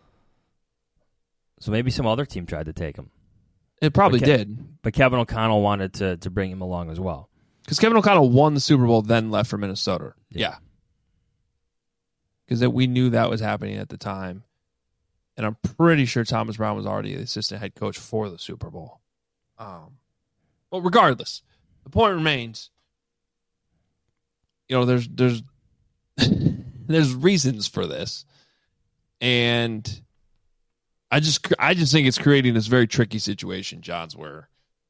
So maybe some other team tried to take him. It probably Ke- did. But Kevin O'Connell wanted to, to bring him along as well. Because Kevin O'Connell won the Super Bowl, then left for Minnesota. Yeah. Because yeah. we knew that was happening at the time. And I'm pretty sure Thomas Brown was already the assistant head coach for the Super Bowl. Um, but regardless, the point remains, you know, there's there's there's reasons for this. And I just I just think it's creating this very tricky situation, Johns, where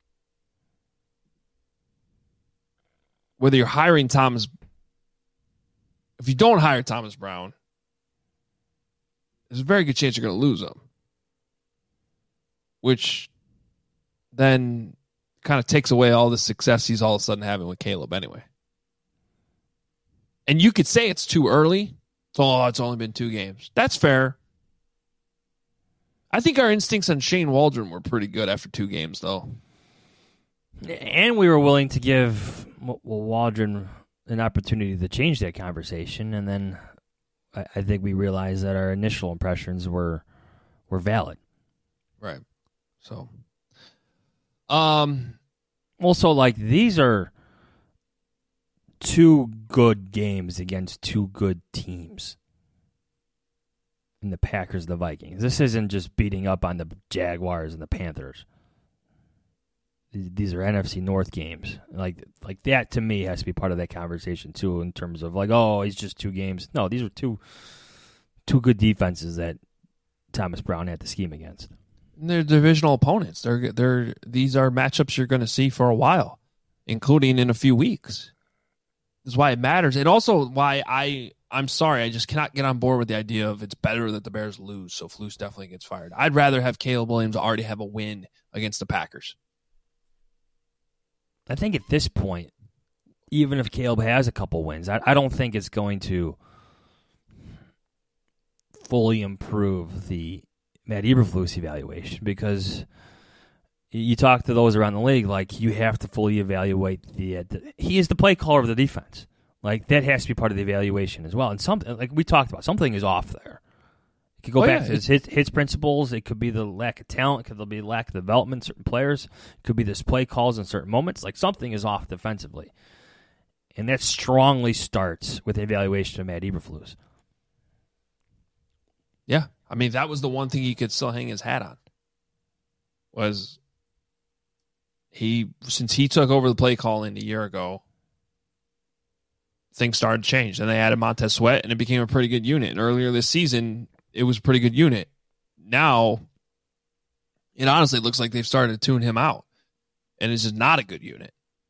whether you're hiring Thomas, if you don't hire Thomas Brown, there's a very good chance you're going to lose him, which then kind of takes away all the success he's all of a sudden having with Caleb anyway. And you could say it's too early. It's, oh, it's only been two games. That's fair. I think our instincts on Shane Waldron were pretty good after two games, though. And we were willing to give well, Waldron an opportunity to change that conversation, and then I, I think we realized that our initial impressions were were valid. Right. So, um, also, like, these are two good games against two good teams. In the Packers and the Vikings. This isn't just beating up on the Jaguars and the Panthers. These are N F C North games. Like like that, to me, has to be part of that conversation, too, in terms of, like, oh, he's just two games. No, these are two two good defenses that Thomas Brown had to scheme against. They're divisional opponents. They're they're These are matchups you're going to see for a while, including in a few weeks. That's why it matters. And also why I... I'm sorry, I just cannot get on board with the idea of it's better that the Bears lose, so Flus definitely gets fired. I'd rather have Caleb Williams already have a win against the Packers. I think at this point, even if Caleb has a couple wins, I, I don't think it's going to fully improve the Matt Eberflus evaluation, because you talk to those around the league, like, you have to fully evaluate the, the he is the play caller of the defense. Like, that has to be part of the evaluation as well. And something, like we talked about, something is off there. It could go oh, back yeah. to his, his his principles. It could be the lack of talent. It could be lack of development in certain players. It could be this play calls in certain moments. Like, something is off defensively. And that strongly starts with the evaluation of Matt Eberflus. Yeah. I mean, that was the one thing he could still hang his hat on. was he since he took over the play calling a year ago, things started to change. And they added Montez Sweat, and it became a pretty good unit. And earlier this season, it was a pretty good unit. Now, it honestly looks like they've started to tune him out, and it's just not a good unit.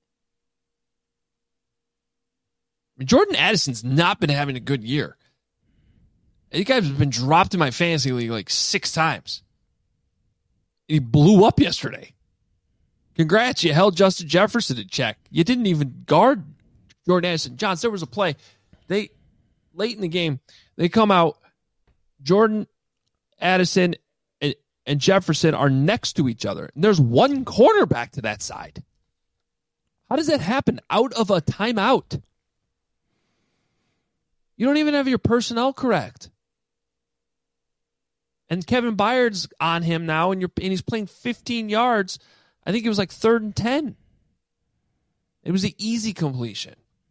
Jordan Addison's not been having a good year. You guys have been dropped in my fantasy league like six times. He blew up yesterday. Congrats, you held Justin Jefferson in check. You didn't even guard Jordan Addison. Johns, there was a play. They late in the game, they come out. Jordan Addison and, and Jefferson are next to each other. And there's one cornerback to that side. How does that happen out of a timeout? You don't even have your personnel correct. And Kevin Byard's on him now, and you're and he's playing fifteen yards. I think it was like third and ten. It was an easy completion.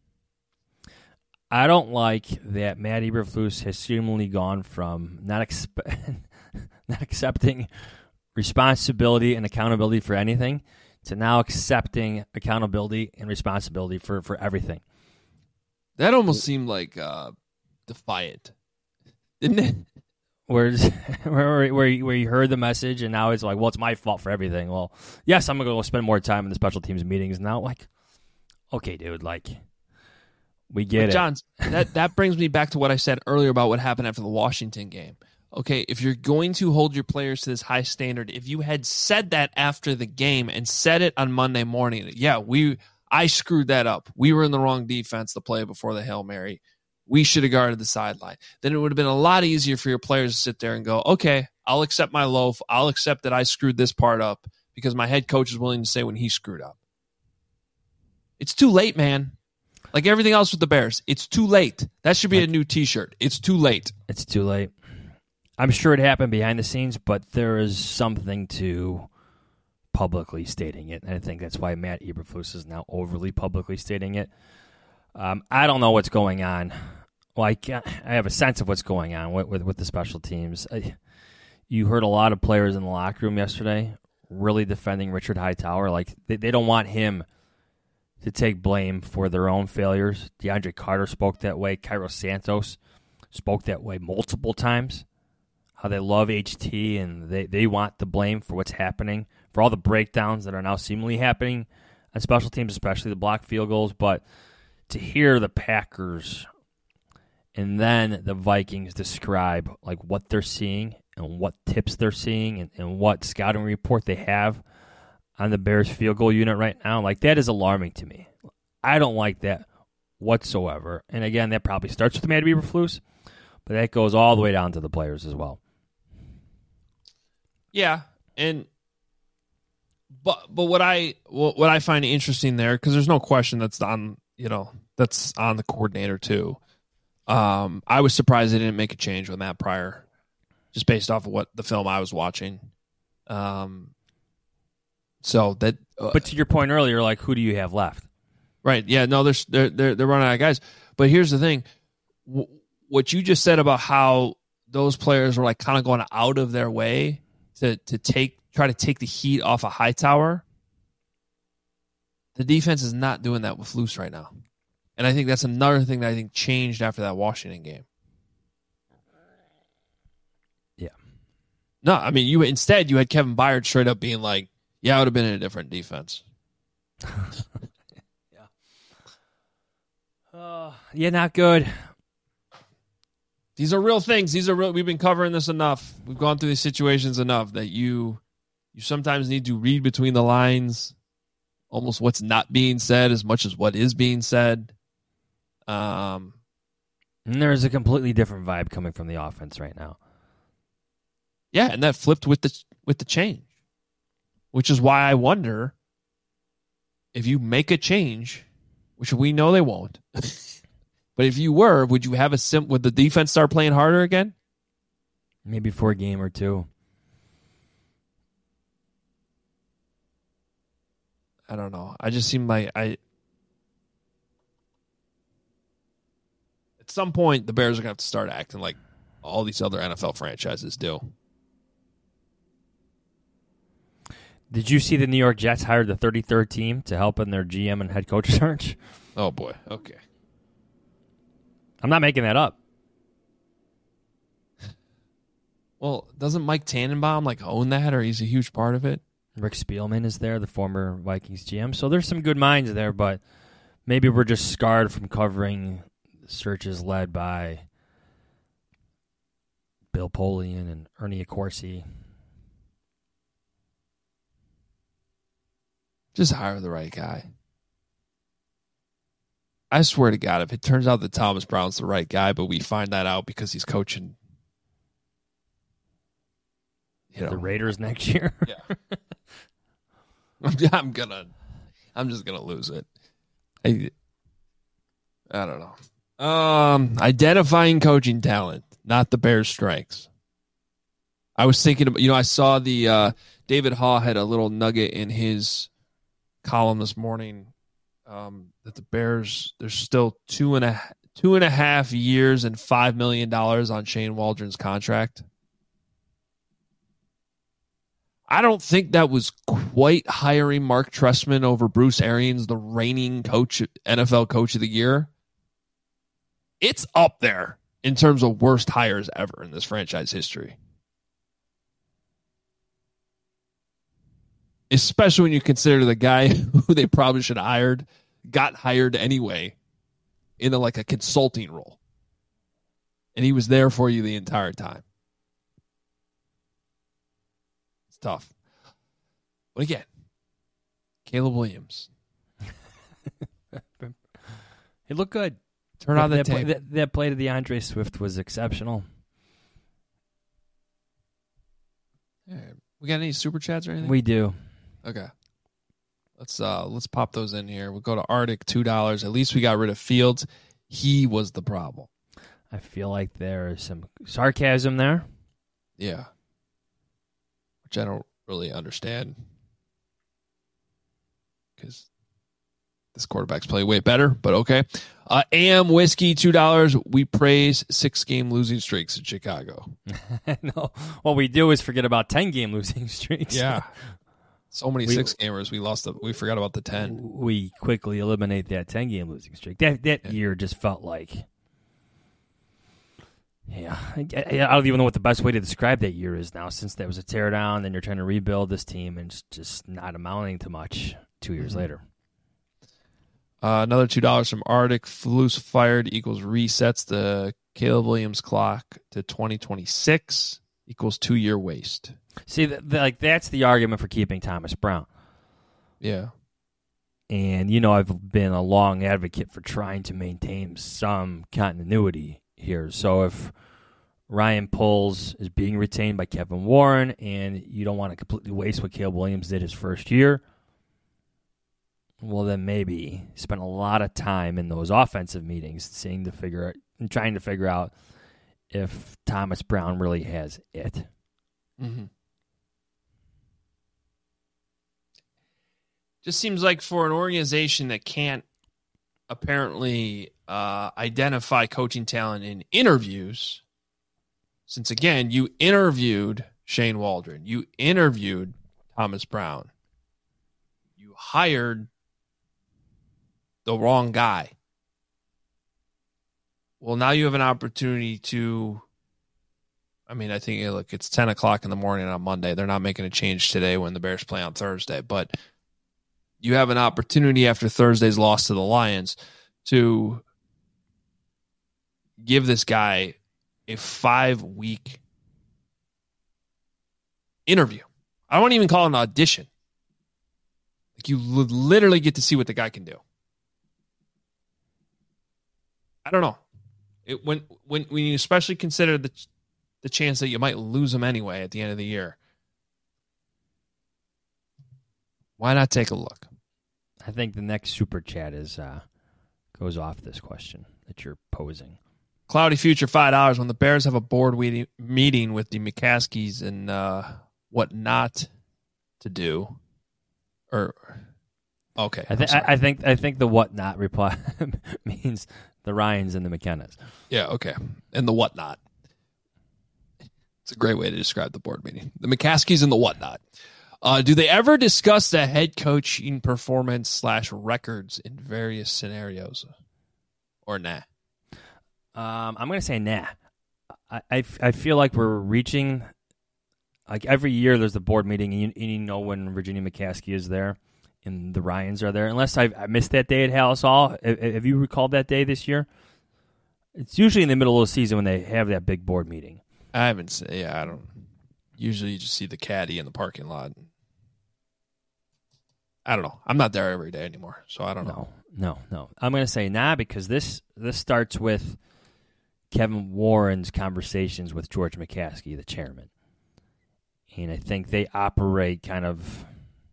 I don't like that Matt Eberflus has seemingly gone from not expe- not accepting responsibility and accountability for anything to now accepting accountability and responsibility for, for everything. That almost seemed like uh, defiant, didn't it? Where's, where, where, where you heard the message and now it's like, well, it's my fault for everything. Well, yes, I'm going to go spend more time in the special teams meetings now. Like, okay, dude, like, we get but it. John, that, that brings me back to what I said earlier about what happened after the Washington game. Okay, if you're going to hold your players to this high standard, if you had said that after the game and said it on Monday morning, yeah, we I screwed that up. We were in the wrong defense to play before the Hail Mary. We should have guarded the sideline. Then it would have been a lot easier for your players to sit there and go, okay, I'll accept my loaf. I'll accept that I screwed this part up because my head coach is willing to say when he screwed up. It's too late, man. Like everything else with the Bears, it's too late. That should be a new T-shirt. It's too late. It's too late. I'm sure it happened behind the scenes, but there is something to publicly stating it. And I think that's why Matt Eberflus is now overly publicly stating it. Um, I don't know what's going on. Well, I, I have a sense of what's going on with, with, with the special teams. I, you heard a lot of players in the locker room yesterday really defending Richard Hightower. Like they, they don't want him to take blame for their own failures. DeAndre Carter spoke that way. Cairo Santos spoke that way multiple times. How they love H T and they, they want the blame for what's happening, for all the breakdowns that are now seemingly happening on special teams, especially the blocked field goals. But to hear the Packers and then the Vikings describe like what they're seeing and what tips they're seeing and, and what scouting report they have on the Bears field goal unit right now, like that is alarming to me. I don't like that whatsoever. And again, that probably starts with Matt Eberflus, but that goes all the way down to the players as well. Yeah, and but but what I what, what I find interesting there, because there's no question that's on you know that's on the coordinator too. Um, I was surprised they didn't make a change with Matt Pryor, just based off of what the film I was watching. Um, so that, uh, but to your point earlier, like who do you have left? Right? Yeah, no, they're they're they're, they're running out of guys. But here's the thing: w- what you just said about how those players were like kind of going out of their way to to take try to take the heat off a Hightower. The defense is not doing that with Flus right now. And I think that's another thing that I think changed after that Washington game. Yeah. No, I mean, you instead you had Kevin Byard straight up being like, yeah, I would have been in a different defense. yeah. Uh, yeah, not good. These are real things. These are real. We've been covering this enough. We've gone through these situations enough that you you sometimes need to read between the lines, almost what's not being said as much as what is being said. Um, and there's a completely different vibe coming from the offense right now. Yeah, and that flipped with the with the change, which is why I wonder if you make a change, which we know they won't. But if you were, would you have a sim? Would the defense start playing harder again? Maybe for a game or two. I don't know. I just seem like I. At some point, the Bears are going to have to start acting like all these other N F L franchises do. Did you see the New York Jets hired the thirty-third team to help in their G M and head coach search? Oh, boy. Okay. I'm not making that up. Well, doesn't Mike Tannenbaum like own that, or he's a huge part of it? Rick Spielman is there, the former Vikings G M. So there's some good minds there, but maybe we're just scarred from covering searches led by Bill Polian and Ernie Accorsi. Just hire the right guy. I swear to God, if it turns out that Thomas Brown's the right guy, but we find that out because he's coaching, you know, the Raiders next year. Yeah, I'm gonna, I'm just gonna lose it. I, I don't know. Um, identifying coaching talent, not the Bears' strengths. I was thinking about, you know, I saw the uh, David Haw had a little nugget in his column this morning um, that the Bears, there's still two and a two and a half years and five million dollars on Shane Waldron's contract. I don't think that was quite hiring Mark Trestman over Bruce Arians, the reigning coach, N F L Coach of the Year. It's up there in terms of worst hires ever in this franchise history. Especially when you consider the guy who they probably should have hired got hired anyway in a, like a consulting role. And he was there for you the entire time. It's tough. But again, Caleb Williams. He looked good. Turn on the that, tape. play, that, that play to DeAndre Swift was exceptional. Yeah. We got any super chats or anything? We do. Okay. Let's uh let's pop those in here. We'll go to Arctic, two dollars. At least we got rid of Fields. He was the problem. I feel like there is some sarcasm there. Yeah. Which I don't really understand. Because this quarterback's play way better, but okay. Uh, A M Whiskey, two dollars. We praise six-game losing streaks in Chicago. No, what we do is forget about ten-game losing streaks. Yeah. So many we, six-gamers, we lost. The, we forgot about the ten. We quickly eliminate that ten-game losing streak. That that yeah. year just felt like, yeah, I, I don't even know what the best way to describe that year is now, since that was a teardown, then you're trying to rebuild this team, and it's just not amounting to much two years mm-hmm. later. Uh, another two dollars from Arctic. Flus fired equals resets the Caleb Williams clock to twenty twenty-six equals two-year waste. See, the, the, like that's the argument for keeping Thomas Brown. Yeah. And, you know, I've been a long advocate for trying to maintain some continuity here. So if Ryan Poles is being retained by Kevin Warren and you don't want to completely waste what Caleb Williams did his first year, well, then maybe spend a lot of time in those offensive meetings seeing to figure out and trying to figure out if Thomas Brown really has it. Mm-hmm. Just seems like for an organization that can't apparently uh, identify coaching talent in interviews, since, again, you interviewed Shane Waldron, you interviewed Thomas Brown, you hired the wrong guy. Well, now you have an opportunity to, I mean, I think, look, it's ten o'clock in the morning on Monday. They're not making a change today when the Bears play on Thursday, but you have an opportunity after Thursday's loss to the Lions to give this guy a five-week interview. I won't even call it an audition. Like, you literally get to see what the guy can do. I don't know. It, when when when you especially consider the the chance that you might lose him anyway at the end of the year, why not take a look? I think the next super chat is uh, goes off this question that you're posing. Cloudy Future, five dollars. When the Bears have a board we- meeting with the McCaskies and uh, what not to do, or okay, I, th- I, I think I think the what not reply means the Ryans and the McKennas. Yeah, okay, and the whatnot. It's a great way to describe the board meeting. The McCaskies and the whatnot. Uh, do they ever discuss the head coaching performance slash records in various scenarios? Or nah? Um, I'm going to say nah. I, I, I feel like we're reaching, like every year there's the board meeting, and you, and you know when Virginia McCaskey is there and the Ryans are there. Unless I've, I missed that day at Hallis Hall. Have you recalled that day this year? It's usually in the middle of the season when they have that big board meeting. I haven't seen, yeah, I don't. Usually you just see the caddy in the parking lot. I don't know. I'm not there every day anymore, so I don't no, know. No, no. I'm going to say nah because this this starts with Kevin Warren's conversations with George McCaskey, the chairman. And I think they operate kind of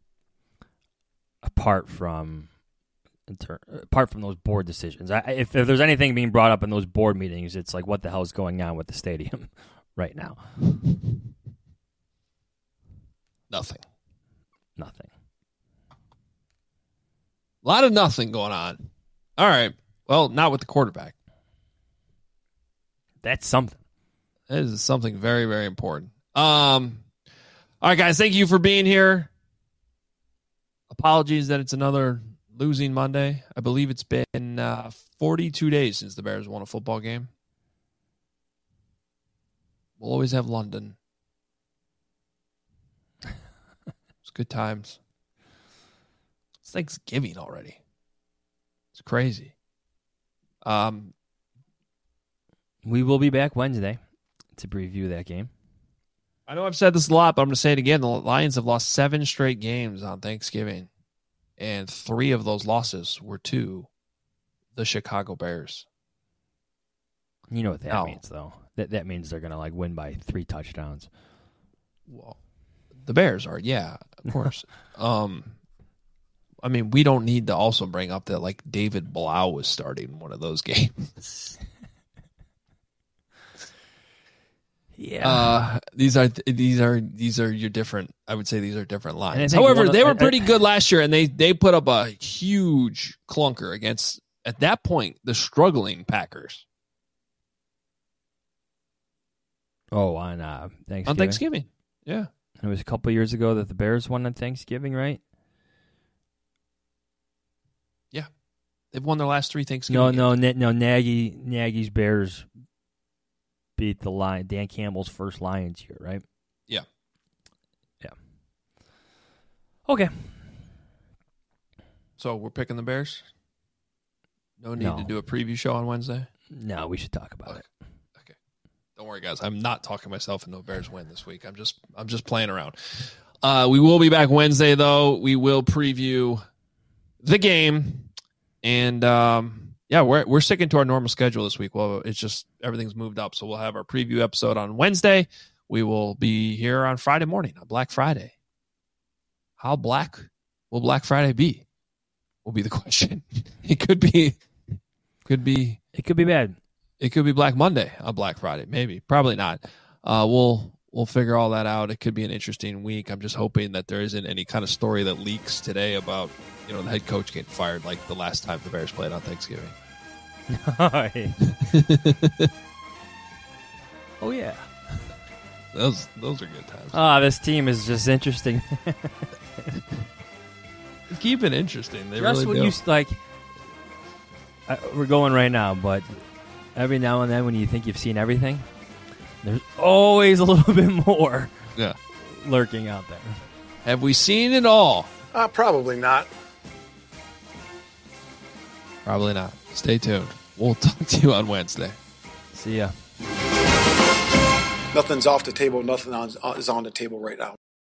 apart from apart from those board decisions. I, if, if there's anything being brought up in those board meetings, it's like, what the hell is going on with the stadium right now? Nothing. Nothing. A lot of nothing going on. All right. Well, not with the quarterback. That's something. That is something very, very important. Um, all right, guys. Thank you for being here. Apologies that it's another losing Monday. I believe it's been uh, forty-two days since the Bears won a football game. We'll always have London. It's good times. It's Thanksgiving already. It's crazy. Um, we will be back Wednesday to preview that game. I know I've said this a lot, but I'm going to say it again. The Lions have lost seven straight games on Thanksgiving, and three of those losses were to the Chicago Bears. You know what that now, means, though. That that means they're going to like win by three touchdowns. Well, the Bears are, yeah, of course. um, I mean, we don't need to also bring up that like David Blau was starting one of those games. Yeah. Uh, these are these are these are your different. I would say these are different lines. I However, of, they were I, pretty I, good last year, and they they put up a huge clunker against, at that point, the struggling Packers. Oh, on uh, Thanksgiving. On Thanksgiving, yeah. It was a couple of years ago that the Bears won on Thanksgiving, right? Yeah, they've won their last three Thanksgiving. No, games. no, no. Nagy, Nagy's Bears beat the Lion, Dan Campbell's first Lions year, right? Yeah, yeah. Okay. So we're picking the Bears. No need no. to do a preview show on Wednesday. No, we should talk about okay. it. Okay. Don't worry, guys. I'm not talking myself into a Bears win this week. I'm just I'm just playing around. Uh, we will be back Wednesday, though. We will preview the game, and um, yeah, we're we're sticking to our normal schedule this week. Well, it's just everything's moved up, so we'll have our preview episode on Wednesday. We will be here on Friday morning, on Black Friday. How black will Black Friday be? Will be the question. It could be, could be, it could be bad. It could be Black Monday on Black Friday. Maybe, probably not. Uh, we'll we'll figure all that out. It could be an interesting week. I'm just hoping that there isn't any kind of story that leaks today about, you know, the head coach getting fired like the last time the Bears played on Thanksgiving. Oh yeah, those those are good times. Ah, this team is just interesting. Keep it interesting. They just really when do. you like, uh, we're going right now, but every now and then when you think you've seen everything, there's always a little bit more. Yeah, lurking out there. Have we seen it all? Uh, probably not. Probably not. Stay tuned. We'll talk to you on Wednesday. See ya. Nothing's off the table. Nothing on, is on the table right now.